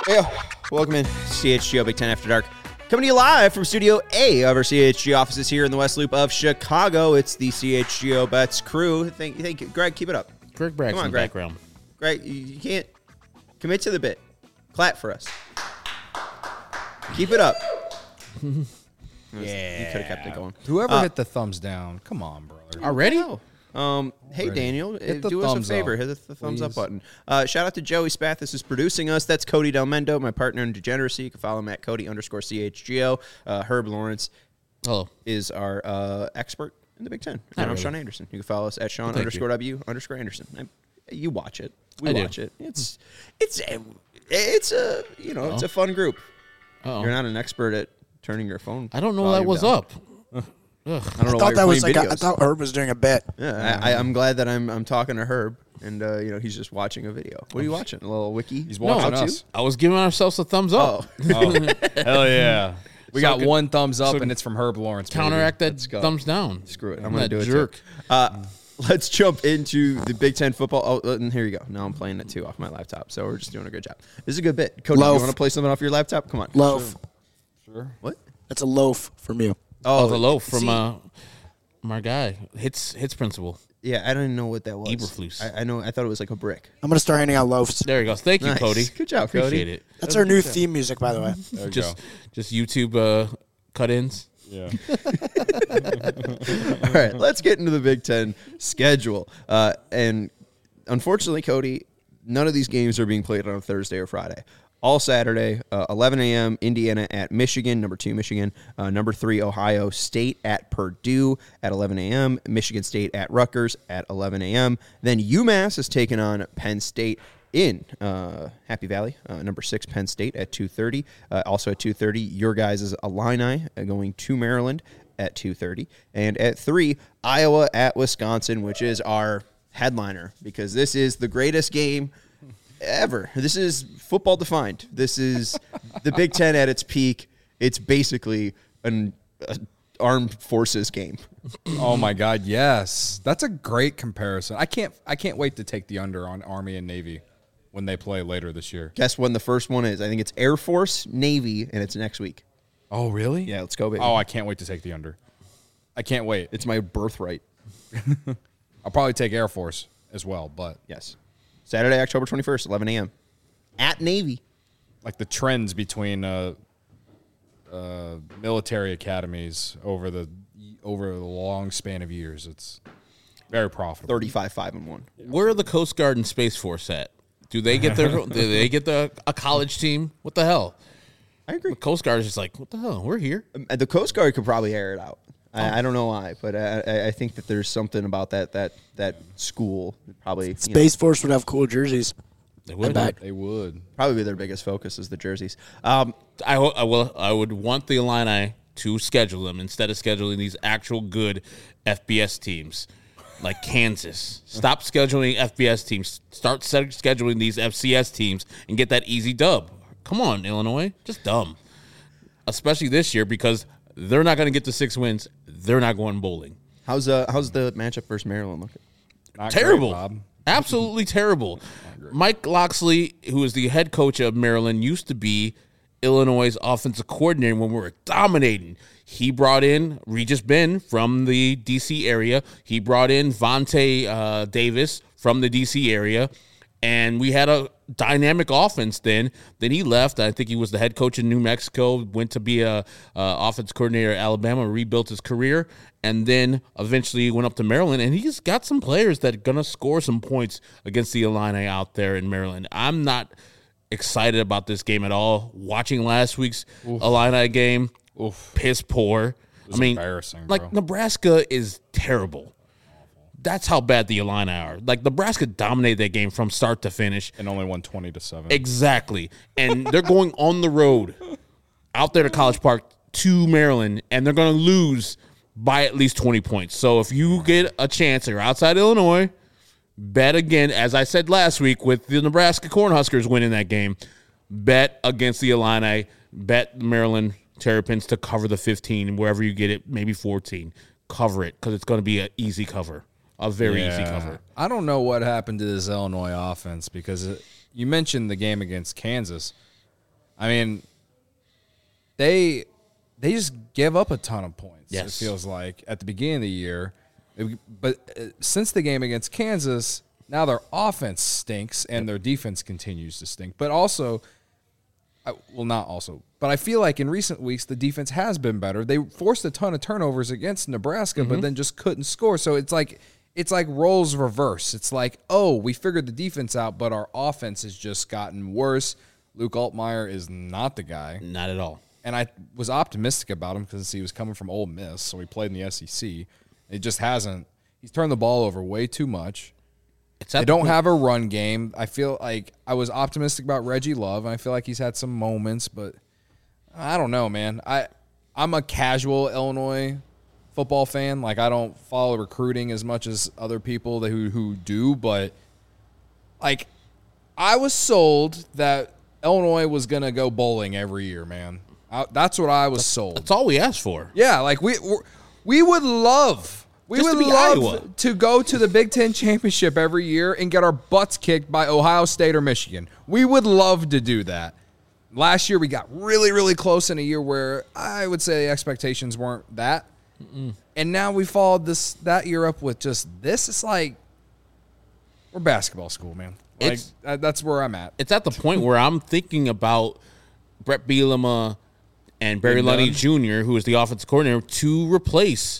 Hey, welcome in CHGO Big Ten After Dark. Coming to you live from Studio A of our CHGO offices here in the West Loop of Chicago. It's the CHGO Bets crew. Thank you. Greg, keep it up. Greg Bragg's in the background. Greg, you can't commit to the bit. Clap for us. Keep it up. Yeah. You could have kept it going. Whoever hit the thumbs down, come on, brother. Already? Hey, Daniel, Hit the do us a thumbs favor. up, Hit the thumbs up please. button. Shout out to Joey Spathis is producing us. That's Cody Del Mendo, my partner in Degeneracy. You can follow him at Cody_CHGO. Herb Lawrence Hello. is our expert in the Big Ten. And I'm really. Sean Anderson. You can follow us at Sean Thank _W_Anderson. You watch it. We I do. watch it. It's a fun group. Uh-oh. You're not an expert at turning your phone. I don't know volume that was down. up. I don't know I why thought you're that was playing like videos. I thought Herb was doing a bit. Yeah, I'm glad that I'm talking to Herb, and he's just watching a video. What are you watching? A little wiki? He's No, watching how-to? us. I was giving ourselves a thumbs up. Oh, Hell yeah. We got good. one thumbs up, So and it's from Herb Lawrence. baby. Counteract that Let's go. thumbs down. screw it. I'm going to That do it jerk. too. Let's jump into the Big Ten football. Oh, and here you go. Now I'm playing it too off my laptop, so we're just doing a good job. This is a good bit. Cody, Loaf. you want to play something off your laptop? Come on. Loaf. Sure. What? That's a loaf from you. Oh, the loaf from see, my guy. Hits principal. yeah, I don't even know what that was. Eberflus. I know. I thought it was like a brick. I'm going to start handing out loafs. There he goes. Thank you, Nice. Cody. Good job, Cody. Appreciate it. That's our new theme music, by the way. There you Just go. YouTube cut-ins. Yeah. All right, let's get into the Big Ten schedule. And unfortunately, Cody, none of these games are being played on a Thursday or Friday. All Saturday, 11 a.m., Indiana at Michigan, number 2 Michigan, number 3 Ohio State at Purdue at 11 a.m., Michigan State at Rutgers at 11 a.m. Then UMass is taking on Penn State in Happy Valley, number 6 Penn State at 2:30. Also at 2:30, your guys' Illini going to Maryland at 2:30. And at 3, Iowa at Wisconsin, which is our headliner because this is the greatest game ever. This is football defined. This is the Big Ten at its peak. It's basically an armed forces game. Oh my God, yes. That's a great comparison. I can't wait to take the under on Army and Navy when they play later this year. Guess when the first one is? I think it's Air Force, Navy, and it's next week. Oh, really? Yeah, let's go, baby. Oh, I can't wait to take the under. I can't wait. It's my birthright. I'll probably take Air Force as well, but Yes. Saturday, October 21st, 11 a.m. At Navy. like the trends between military academies over the long span of years, it's very profitable. 35-5-1. Where are the Coast Guard and Space Force at? Do they get a college team? What the hell? I agree. The Coast Guard is just like, what the hell? We're here. The Coast Guard could probably air it out. I don't know why, but I think that there's something about that school probably Space Force would have cool jerseys. They would. bet. They would. probably be their biggest focus is the jerseys. I would want the Illini to schedule them instead of scheduling these actual good FBS teams like Kansas. Stop scheduling FBS teams. Start scheduling these FCS teams and get that easy dub. Come on, Illinois. Just dumb. Especially this year because they're not going to get the 6 wins. They're not going bowling. How's the matchup versus Maryland looking? Not Terrible. great, Bob. Absolutely terrible. Mike Loxley, who is the head coach of Maryland, used to be Illinois' offensive coordinator when we were dominating. He brought in Regis Ben from the D.C. area. He brought in Vontae Davis from the D.C. area. And we had a dynamic offense then. Then he left. I think he was the head coach in New Mexico, went to be a offense coordinator at Alabama, rebuilt his career, and then eventually went up to Maryland. And he's got some players that are going to score some points against the Illini out there in Maryland. I'm not excited about this game at all. Watching last week's Illini game, piss poor. was embarrassing, bro. Like Nebraska is terrible. That's how bad the Illini are. Like, Nebraska dominated that game from start to finish. And only won 20-7. Exactly. And they're going on the road out there to College Park to Maryland, and they're going to lose by at least 20 points. So if you get a chance, you're outside Illinois, bet again, as I said last week with the Nebraska Cornhuskers winning that game, bet against the Illini, bet Maryland Terrapins to cover the 15, wherever you get it, maybe 14. Cover it because it's going to be an easy cover. A very easy cover. I don't know what happened to this Illinois offense because you mentioned the game against Kansas. I mean, they just give up a ton of points. Yes. It feels like at the beginning of the year, but since the game against Kansas, now their offense stinks and their defense continues to stink. But also, not also, but I feel like in recent weeks the defense has been better. They forced a ton of turnovers against Nebraska, but then just couldn't score. So it's like roles reverse. It's like, oh, we figured the defense out, but our offense has just gotten worse. Luke Altmaier is not the guy. Not at all. And I was optimistic about him because he was coming from Ole Miss, so he played in the SEC. It just hasn't. He's turned the ball over way too much. They don't have a run game. I feel like I was optimistic about Reggie Love, and I feel like he's had some moments, but I don't know, man. I'm a casual Illinois football fan. Like, I don't follow recruiting as much as other people who do, but like, I was sold that Illinois was going to go bowling every year, man. That's what I was sold. That's all we asked for. Yeah, like we would love Iowa. to go to the Big Ten championship every year and get our butts kicked by Ohio State or Michigan. We would love to do that. Last year we got really, really close in a year where I would say expectations weren't that. And now we followed that year up with just this. It's like we're basketball school, man. Like that's where I'm at. It's at the point where I'm thinking about Brett Bielema and Barry Lundy Jr., who is the offensive coordinator, to replace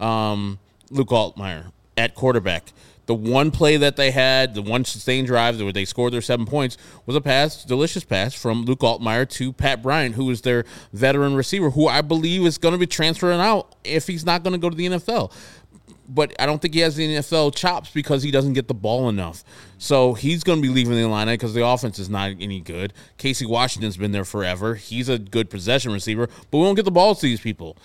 Luke Altmaier at quarterback. The one play that they had, the one sustained drive where they scored their 7 points, was a delicious pass from Luke Altmaier to Pat Bryant, who is their veteran receiver, who I believe is going to be transferring out if he's not going to go to the NFL. But I don't think he has the NFL chops because he doesn't get the ball enough. So he's going to be leaving the Illini because the offense is not any good. Casey Washington's been there forever. He's a good possession receiver, but we won't get the ball to these people.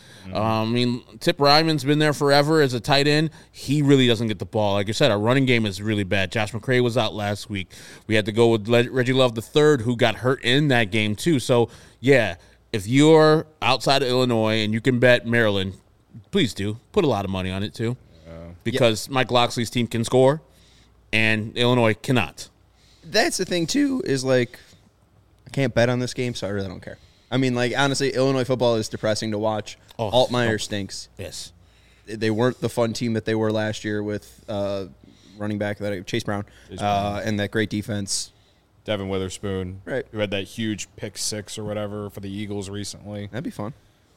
Tip Ryman's been there forever as a tight end. He really doesn't get the ball. Like I said, our running game is really bad. Josh McCray was out last week. We had to go with Reggie Love III, who got hurt in that game too. So, yeah, if you're outside of Illinois and you can bet Maryland, please do. Put a lot of money on it too. Because Mike Loxley's team can score, and Illinois cannot. That's the thing, too, is like, I can't bet on this game, so I really don't care. I mean, like, honestly, Illinois football is depressing to watch. Altmaier stinks. Yes. They weren't the fun team that they were last year with running back Chase Brown, and that great defense. Devin Witherspoon, right, who had that huge pick 6 or whatever for the Eagles recently. That'd be fun.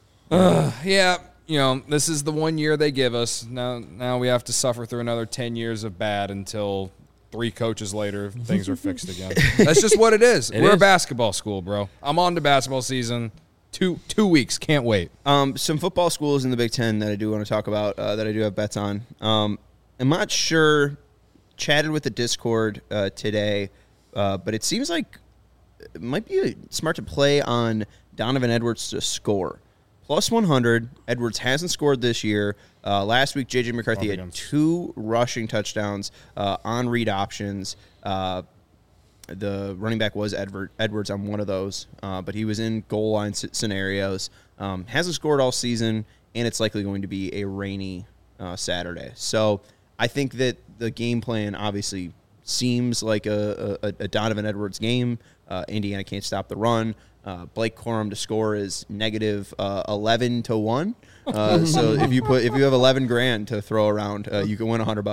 Yeah. You know, this is the 1 year they give us. Now we have to suffer through another 10 years of bad until 3 coaches later things are fixed again. That's just what it is. We're a basketball school, bro. I'm on to basketball season. 2 weeks. Can't wait. Some football schools in the Big Ten that I do want to talk about that I do have bets on. I'm not sure. Chatted with the Discord today, but it seems like it might be smart to play on Donovan Edwards to score. Plus 100. Edwards hasn't scored this year. Last week, J.J. McCarthy had 2 rushing touchdowns on read options. The running back was Edwards on one of those, but he was in goal line scenarios. Hasn't scored all season, and it's likely going to be a rainy Saturday. So I think that the game plan obviously seems like a Donovan Edwards game. Indiana can't stop the run. Blake Corum to score is negative 11 to 1. So if you have $11,000 to throw around, you can win $100.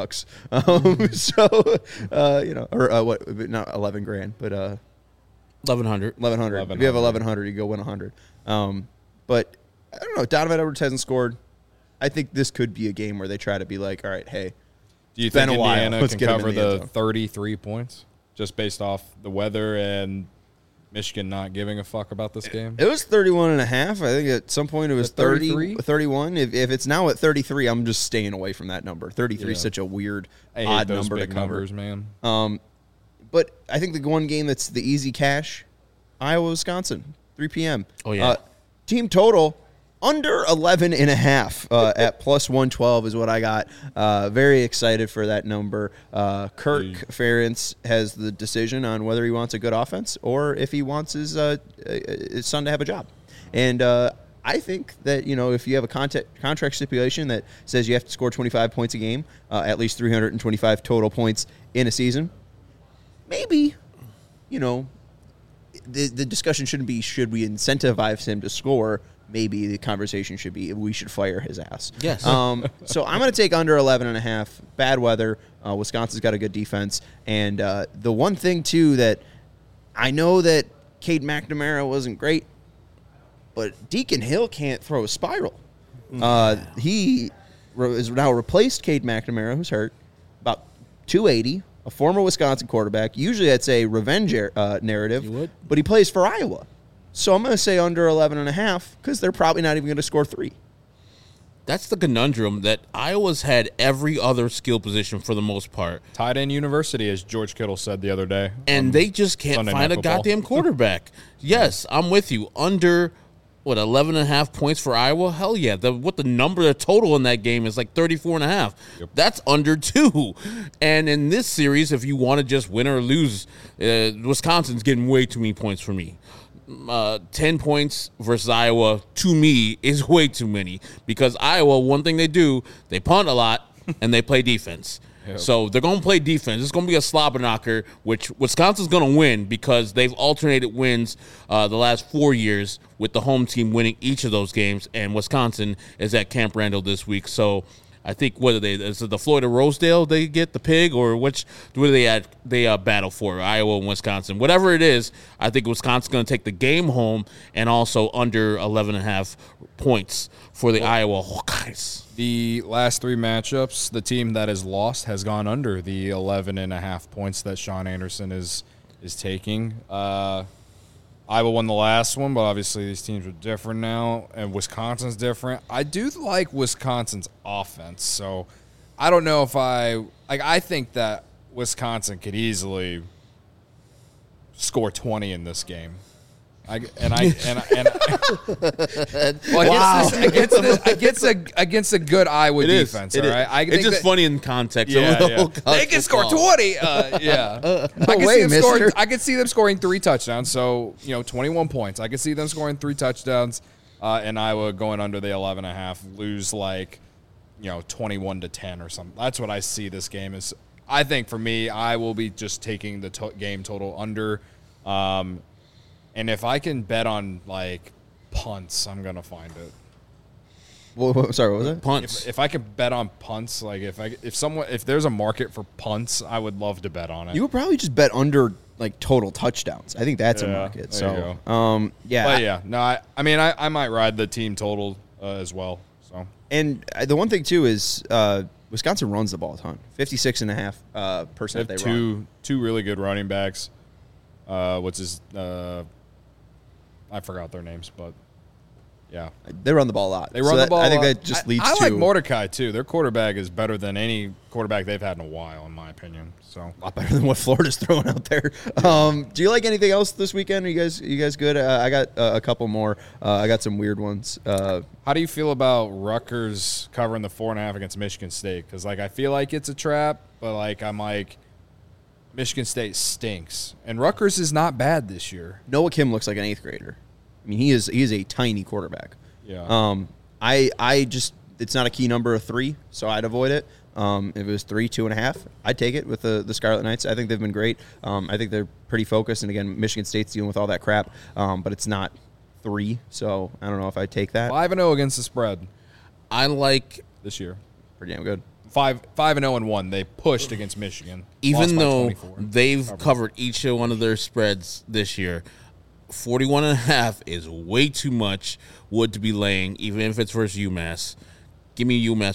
What? Not $11,000, but 1,100. 1,100. If you have 1,100, you go win 100. But I don't know. Donovan Edwards hasn't scored. I think this could be a game where they try to be like, all right, hey, do you think Indiana can cover the 33 points just based off the weather and Michigan not giving a fuck about this game? It was 31.5. I think at some point it was 33? 31. If it's now at 33, I'm just staying away from that number. 33 is such a weird, odd number to cover. Numbers, man. But I think the one game that's the easy cash, Iowa-Wisconsin, 3 p.m. Oh, yeah. Team total under 11.5 at plus 112 is what I got. Very excited for that number. Kirk Ferentz has the decision on whether he wants a good offense or if he wants his son to have a job. And I think that, if you have a contract stipulation that says you have to score 25 points a game, at least 325 total points in a season, maybe, the discussion shouldn't be should we incentivize him to score. Maybe the conversation should be we should fire his ass. Yes. So I'm going to take under 11.5. Bad weather. Wisconsin's got a good defense. And the one thing, too, that I know that Cade McNamara wasn't great, but Deacon Hill can't throw a spiral. He is now replaced Cade McNamara, who's hurt, about 280, a former Wisconsin quarterback. Usually that's a revenge narrative, You would? but he plays for Iowa. So I'm going to say under 11.5 because they're probably not even going to score 3. That's the conundrum that Iowa's had every other skill position for the most part. Tight end university, as George Kittle said the other day. And they just can't Sunday find Night a Football. goddamn quarterback. Yes, I'm with you. Under, 11.5 points for Iowa? Hell yeah. The number, the total in that game is like 34.5. Yep. That's under 2. And in this series, if you want to just win or lose, Wisconsin's getting way too many points for me. 10 points versus Iowa, to me, is way too many. Because Iowa, one thing they do, they punt a lot, and they play defense. Yep. So they're going to play defense. It's going to be a slobber knocker, which Wisconsin's going to win because they've alternated wins the last 4 years with the home team winning each of those games, and Wisconsin is at Camp Randall this week. So I think, what are they? Is it the Florida Rosedale they get, the pig, or what do they battle for? Iowa and Wisconsin. Whatever it is, I think Wisconsin's going to take the game home and also under 11.5 points for the Iowa Hawkeyes. The last 3 matchups, the team that has lost has gone under the 11.5 points that Sean Anderson is taking. Iowa won the last one, but obviously these teams are different now, and Wisconsin's different. I do like Wisconsin's offense, so I don't know if I think that Wisconsin could easily score 20 in this game. Against a good Iowa defense, all right? It's just funny in context. They can score 20. I could see them scoring 3 touchdowns. So 21 points. I could see them scoring 3 touchdowns, and Iowa going under the 11.5, lose 21-10 or something. That's what I see this game is. I think for me, I will be just taking the game total under. And if I can bet on punts, I'm gonna find it. Well, sorry, what was it? Punts. If I could bet on punts, if there's a market for punts, I would love to bet on it. You would probably just bet under total touchdowns. I think that's a market. There you So, yeah. But yeah, no, I might ride the team total as well. So, and the one thing too is Wisconsin runs the ball a ton. 56.5% they run. Two really good running backs. I forgot their names, but yeah, they run the ball a lot. They run the ball. I think a lot. that just leads I to like Mordecai too. Their quarterback is better than any quarterback they've had in a while, in my opinion. So a lot better than what Florida's throwing out there. Do you like anything else this weekend? Are you guys good? I got a couple more. I got some weird ones. How do you feel about Rutgers covering the 4.5 against Michigan State? Because I feel like it's a trap, but I'm like, Michigan State stinks, and Rutgers is not bad this year. Noah Kim looks like an 8th grader. I mean, he is a tiny quarterback. Yeah. I just it's not a key number of 3, so I'd avoid it. If it was 3, 2.5, I'd take it with the Scarlet Knights. I think they've been great. I think they're pretty focused, and again, Michigan State's dealing with all that crap. But it's not 3, so I don't know if I'd take that. 5-0 against the spread. I like this year. Pretty damn good. 5-0-1. They pushed against Michigan, even though they've covered each one of their spreads this year. 41.5 is way too much wood to be laying, even if it's versus UMass. Give me UMass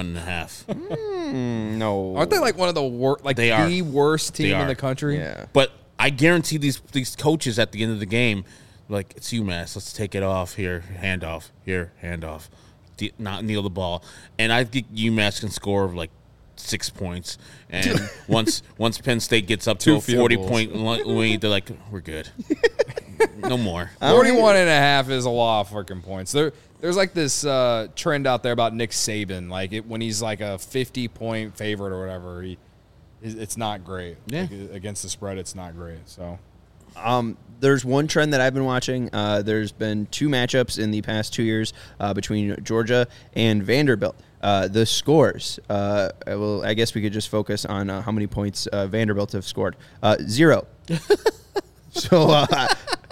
41.5. No, aren't they one of the worst? The worst team in the country. Yeah, but I guarantee these coaches at the end of the game, it's UMass. Let's take it off here. Handoff here. Handoff. Not kneel the ball, and I think UMass can score 6 points. And once Penn State gets up to a 40-point lead, they're like, we're good. No more. 41.5 is a lot of freaking points. There's this trend out there about Nick Saban, when he's a 50-point favorite or whatever, it's not great. Yeah. Against the spread, it's not great. So. There's one trend that I've been watching. There's been 2 matchups in the past 2 years between Georgia and Vanderbilt. The scores. I guess we could just focus on how many points Vanderbilt have scored. 0. So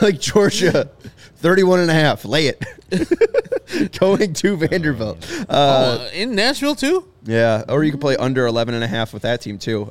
like Georgia, 31.5. Lay it. Going to Vanderbilt. In Nashville too. Yeah, or you can play under 11.5 with that team too.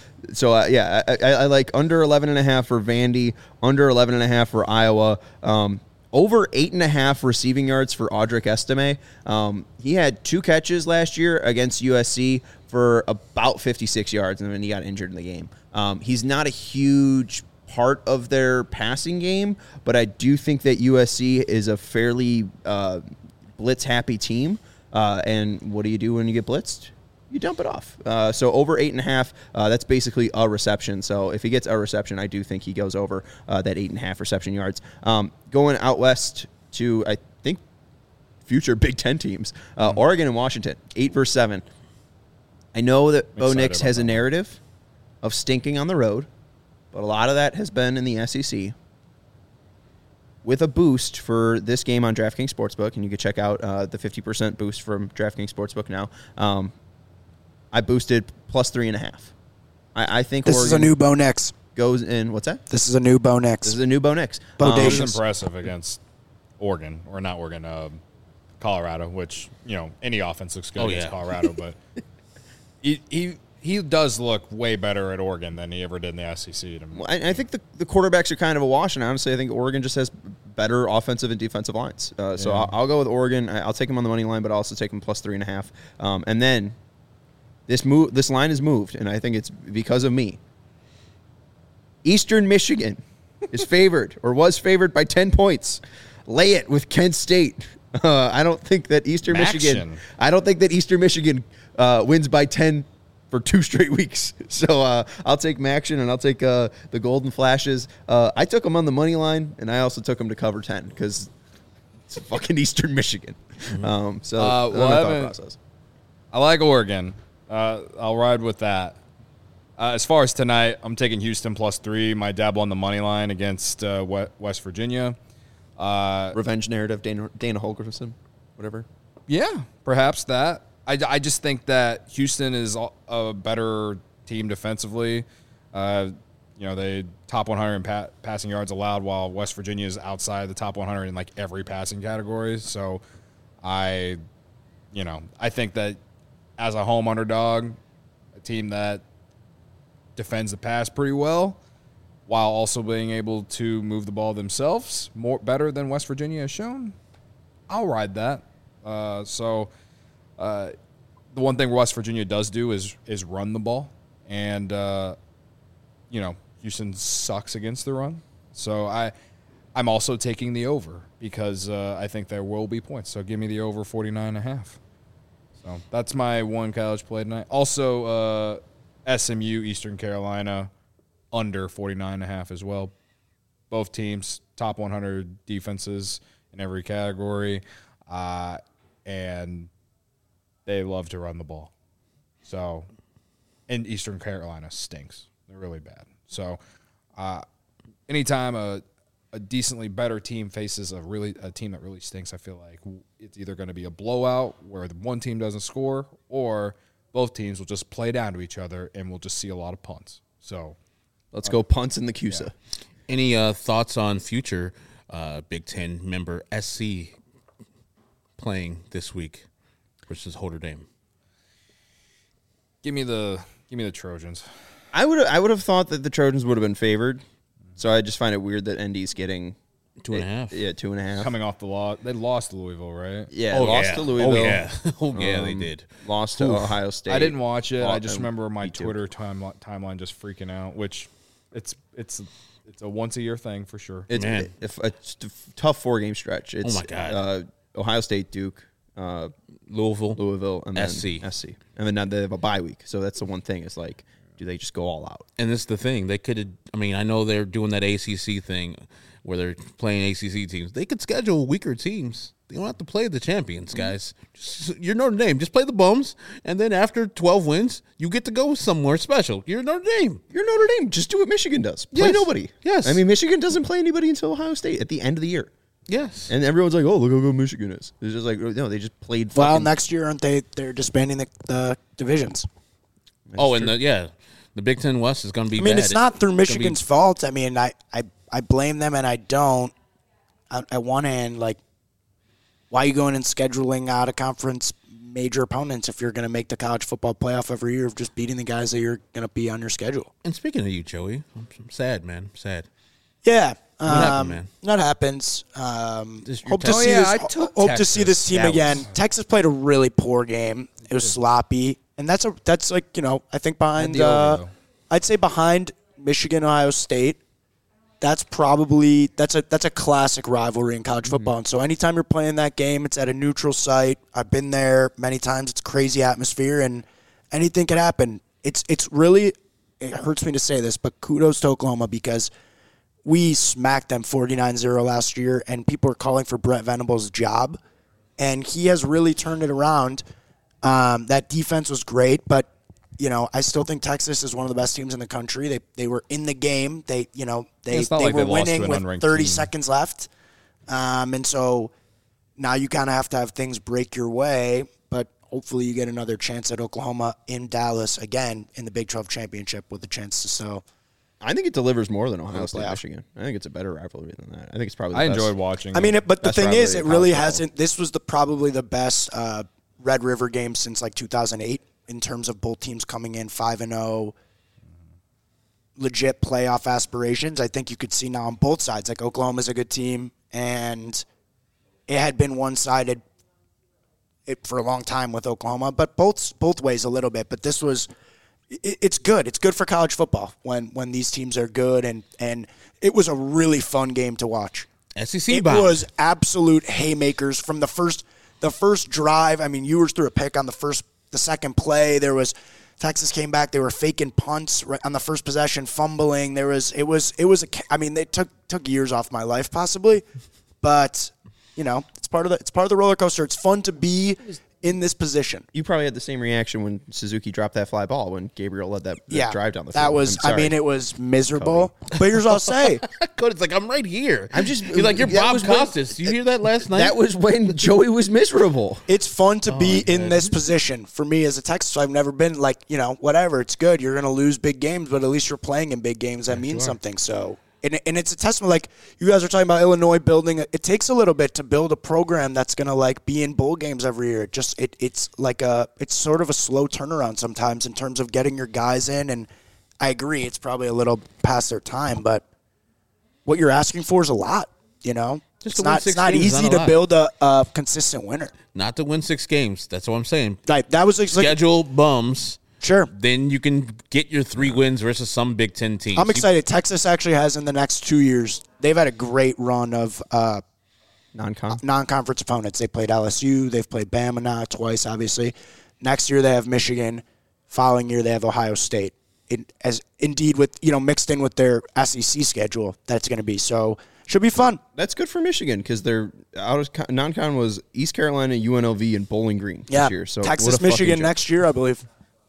I like under 11.5 for Vandy, under 11.5 for Iowa. Over 8.5 receiving yards for Audric Estime. He had 2 catches last year against USC for about 56 yards, and then he got injured in the game. He's not a huge part of their passing game, but I do think that USC is a fairly blitz-happy team. And what do you do when you get blitzed? You dump it off. So over 8.5, that's basically a reception. So if he gets a reception, I do think he goes over that 8.5 reception yards. Going out west to, I think, future Big Ten teams, Oregon and Washington, 8 versus 7. I know that Bo Nix has a narrative of stinking on the road, but a lot of that has been in the SEC. With a boost for this game on DraftKings Sportsbook, and you can check out the 50% boost from DraftKings Sportsbook now. I boosted plus 3.5. I think This Oregon is a new Bo Nix. goes in. What's that? This is a new Bo Nix. This is a new Bo Nix. It was Bodacious. impressive against Oregon, or not Oregon, Colorado, which, any offense looks good against Colorado, but he does look way better at Oregon than he ever did in the SEC. I think the quarterbacks are kind of a wash, and honestly, I think Oregon just has better offensive and defensive lines. So I'll go with Oregon. I'll take him on the money line, but I'll also take him plus 3.5. And then this line is moved, and I think it's because of me. Eastern Michigan is favored or was favored by 10 points. Lay it with Kent State. I don't think that Eastern Michigan. I don't think that Eastern Michigan wins by 10 for 2 straight weeks. So I'll take Maction, and I'll take the Golden Flashes. I took them on the money line, and I also took them to cover 10 because it's fucking Eastern Michigan. Well, that's my thought process. I like Oregon. I'll ride with that. As far as tonight, I'm taking Houston plus 3. My dabble on the money line against West Virginia. Revenge narrative, Dana Holgorsen, whatever. Yeah, perhaps that. I just think that Houston is a better team defensively. They top 100 in passing yards allowed, while West Virginia is outside the top 100 in like every passing category. So I think that as a home underdog, a team that defends the pass pretty well, while also being able to move the ball themselves better than West Virginia has shown, I'll ride that. The one thing West Virginia does do is run the ball, and Houston sucks against the run. So I'm also taking the over because I think there will be points. So give me the over 49.5. So that's my one college play tonight. Also, SMU, Eastern Carolina, under 49.5 as well. Both teams, top 100 defenses in every category, and they love to run the ball. So, and Eastern Carolina stinks. They're really bad. So, anytime a decently better team faces a team that really stinks, I feel like it's either going to be a blowout where the one team doesn't score, or both teams will just play down to each other and we'll just see a lot of punts. So let's go punts in the CUSA. Yeah. Any thoughts on future Big Ten member SC playing this week versus Notre Dame? Give me the Trojans. I would have thought that the Trojans would have been favored. So I just find it weird that ND's getting 2.5. Yeah, 2.5. Coming off the loss. They lost to Louisville, right? Yeah, lost to Louisville. Oh, yeah, they did. Lost to Ohio State. I didn't watch it. I just remember my Twitter timeline just freaking out, which it's a once-a-year thing for sure. It's a tough 4-game stretch. It's, oh, my God. Ohio State, Duke, Louisville, and then SC. And then they have a bye week. So that's the one thing. It's like, do they just go all out? And this is the thing. They could have – I know they're doing that ACC thing where they're playing ACC teams. They could schedule weaker teams. They don't have to play the champions, guys. You're Notre Dame. Just play the bums, and then after 12 wins, you get to go somewhere special. You're Notre Dame. You're Notre Dame. Just do what Michigan does. Play nobody. Yes. Michigan doesn't play anybody until Ohio State at the end of the year. Yes. And everyone's like, oh, look how good Michigan is. It's just like, no, they just played Well, next year, aren't they? They're disbanding the divisions. The Big Ten West is going to be bad. It's not through Michigan's fault. I I blame them and I don't. At one hand, like, why are you going and scheduling out of conference major opponents if you're going to make the college football playoff every year of just beating the guys that you're going to be on your schedule? And speaking of you, Joey, I'm sad, man. I'm sad. Yeah. What happened, man? That happens. Hope to see this team again. Texas played a really poor game. It was sloppy, and that's like, you know, I think behind I'd say behind Michigan, Ohio State. That's a classic rivalry in college football. And so anytime you're playing that game, it's at a neutral site. I've been there many times. It's a crazy atmosphere, and anything could happen. It's really, it hurts me to say this, but kudos to Oklahoma because we smacked them 49-0 last year, and people are calling for Brent Venables' job, and he has really turned it around. That defense was great, but you know, I still think Texas is one of the best teams in the country. They were in the game. They were winning with 30 seconds left. And so now you kind of have to have things break your way, but hopefully you get another chance at Oklahoma in Dallas again in the Big 12 championship with a chance to sell. I think it delivers more than Ohio State, Michigan. I think it's a better rivalry than that. I think it's probably the best. Enjoyed watching. I mean, but the thing is, it really hasn't. This was probably the best Red River game since like 2008. In terms of both teams coming in 5-0, legit playoff aspirations. I think you could see now on both sides, like Oklahoma's a good team, and it had been one-sided for a long time with Oklahoma, but both ways a little bit. But this was, it's good. It's good for college football when these teams are good, and it was a really fun game to watch. SEC bound. It was absolute haymakers from the first drive. I mean, Ewers threw a pick on the second play. There was Texas came back. They were faking punts on the first possession, fumbling. I mean, they took years off my life possibly, but you know, it's part of the roller coaster. It's fun to be in this position. You probably had the same reaction when Suzuki dropped that fly ball when Gabriel led that drive down the field. That was, I mean, it was miserable. Cody. But here's what I'll say. Cody's like, I'm right here. You're like, you're Bob Costas. You hear that last night? That was when Joey was miserable. It's fun to be in this position. For me as a Texas, I've never been like, you know, whatever. It's good. You're going to lose big games, but at least you're playing in big games. That means something. So. And it's a testament, like you guys are talking about Illinois building. It takes a little bit to build a program that's going to like be in bowl games every year. It's sort of a slow turnaround sometimes in terms of getting your guys in. And I agree, it's probably a little past their time, but what you're asking for is a lot. You know, it's not easy to build a consistent winner. Not to win 6 games. That's what I'm saying. Like that was schedule bums. Sure. Then you can get your 3 wins versus some Big Ten teams. I'm excited. Texas actually has in the next 2 years, they've had a great run of non-conference opponents. They played LSU. They've played Bama now twice, obviously. Next year they have Michigan. Following year they have Ohio State. Mixed in with their SEC schedule, that's going to be. So should be fun. That's good for Michigan because their out of non-con was East Carolina, UNLV, and Bowling Green this year. So Texas, Michigan next year, I believe.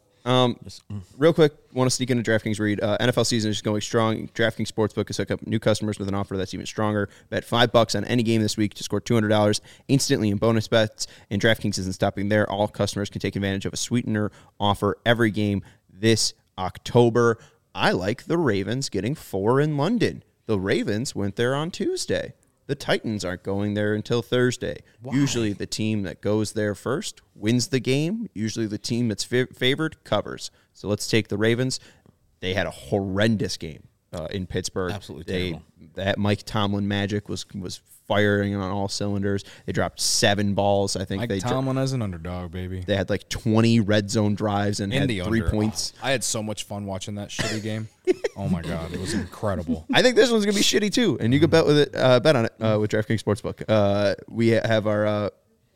Real quick, want to sneak into DraftKings read. NFL season is going strong. DraftKings Sportsbook has hooked up new customers with an offer that's even stronger. Bet $5 on any game this week to score $200 instantly in bonus bets. And DraftKings isn't stopping there. All customers can take advantage of a sweetener offer every game this October. I like the Ravens getting 4 in London. The Ravens went there on Tuesday. The Titans aren't going there until Thursday. Why? Usually the team that goes there first wins the game. Usually the team that's favored covers. So let's take the Ravens. They had a horrendous game in Pittsburgh. Absolutely terrible. That Mike Tomlin magic was firing on all cylinders. They dropped 7 balls. I think Mike Tomlin as an underdog, baby. They had like 20 red zone drives and had 3 points. I had so much fun watching that shitty game. Oh my god, it was incredible. I think this one's gonna be shitty too, and you can bet with it. Bet on it with DraftKings Sportsbook. We have our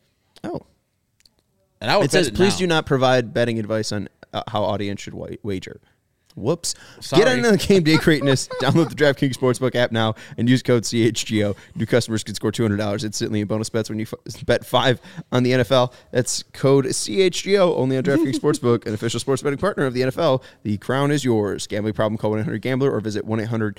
and I would. It says, please do not provide betting advice on how audience should wager. Whoops. Sorry. Get into the game day greatness. Download the DraftKings Sportsbook app now and use code CHGO. New customers can score $200 instantly in bonus bets when you bet 5 on the NFL. That's code CHGO only on DraftKings Sportsbook, an official sports betting partner of the NFL. The crown is yours. Gambling problem, call 1-800-GAMBLER or visit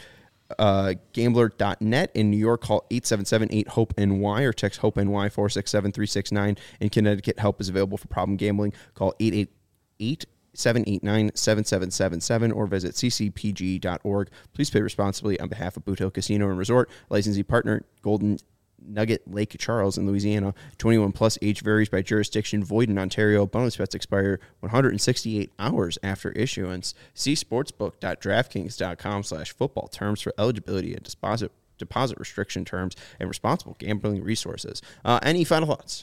1-800-GAMBLER.net. In New York, call 877-8-HOPE-NY or text HOPE-NY 467-369. In Connecticut, help is available for problem gambling. Call 888 789-7777 or visit ccpg.org. Please pay responsibly on behalf of Boot Hill Casino and Resort. Licensee partner, Golden Nugget Lake Charles in Louisiana. 21 plus, age varies by jurisdiction, void in Ontario. Bonus bets expire 168 hours after issuance. See sportsbook.draftkings.com/football terms for eligibility and deposit restriction terms and responsible gambling resources. Any final thoughts?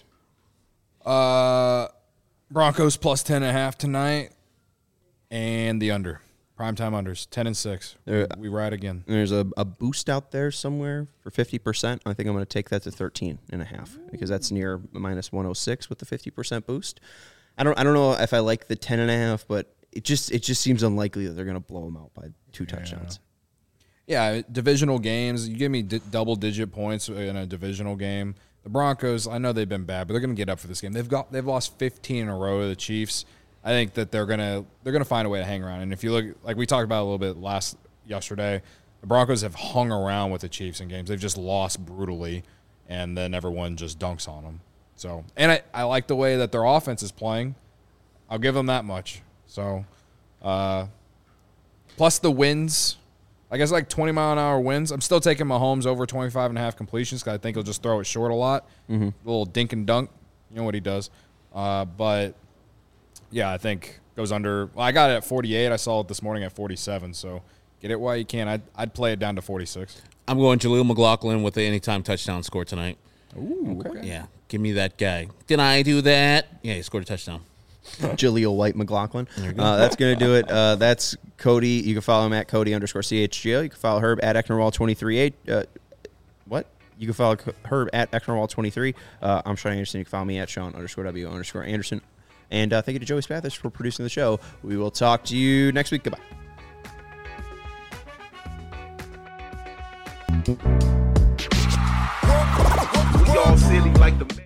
Broncos plus 10.5 tonight, and the under. Primetime unders, 10-6. We ride again. There's a boost out there somewhere for 50%. I think I'm going to take that to 13.5 because that's near minus 106 with the 50% boost. I don't know if I like the 10.5, but it just seems unlikely that they're going to blow them out by 2 touchdowns. Yeah, divisional games. You give me double-digit points in a divisional game. The Broncos, I know they've been bad, but they're going to get up for this game. They've lost 15 in a row to the Chiefs. I think that they're gonna find a way to hang around. And if you look, like we talked about a little bit yesterday, the Broncos have hung around with the Chiefs in games. They've just lost brutally, and then everyone just dunks on them. So, and I like the way that their offense is playing. I'll give them that much. So, plus the wins, I guess like 20-mile-an-hour wins. I'm still taking Mahomes over 25.5 completions because I think he'll just throw it short a lot. Mm-hmm. A little dink and dunk. You know what he does. But yeah, I think goes under. Well, I got it at 48. I saw it this morning at 47. So get it while you can. I'd play it down to 46. I'm going Jaleel McLaughlin with the anytime touchdown score tonight. Ooh, okay. Yeah, give me that guy. Did I do that? Yeah, he scored a touchdown. Jaleel White McLaughlin. That's going to do it. That's Cody. You can follow him at Cody_CHGO. You can follow Herb at Ecknerwall23. What? You can follow Herb at Ecknerwall23. I'm Sean Anderson. You can follow me at Sean_W_Anderson. And thank you to Joey Spathis for producing the show. We will talk to you next week. Goodbye. We all silly like the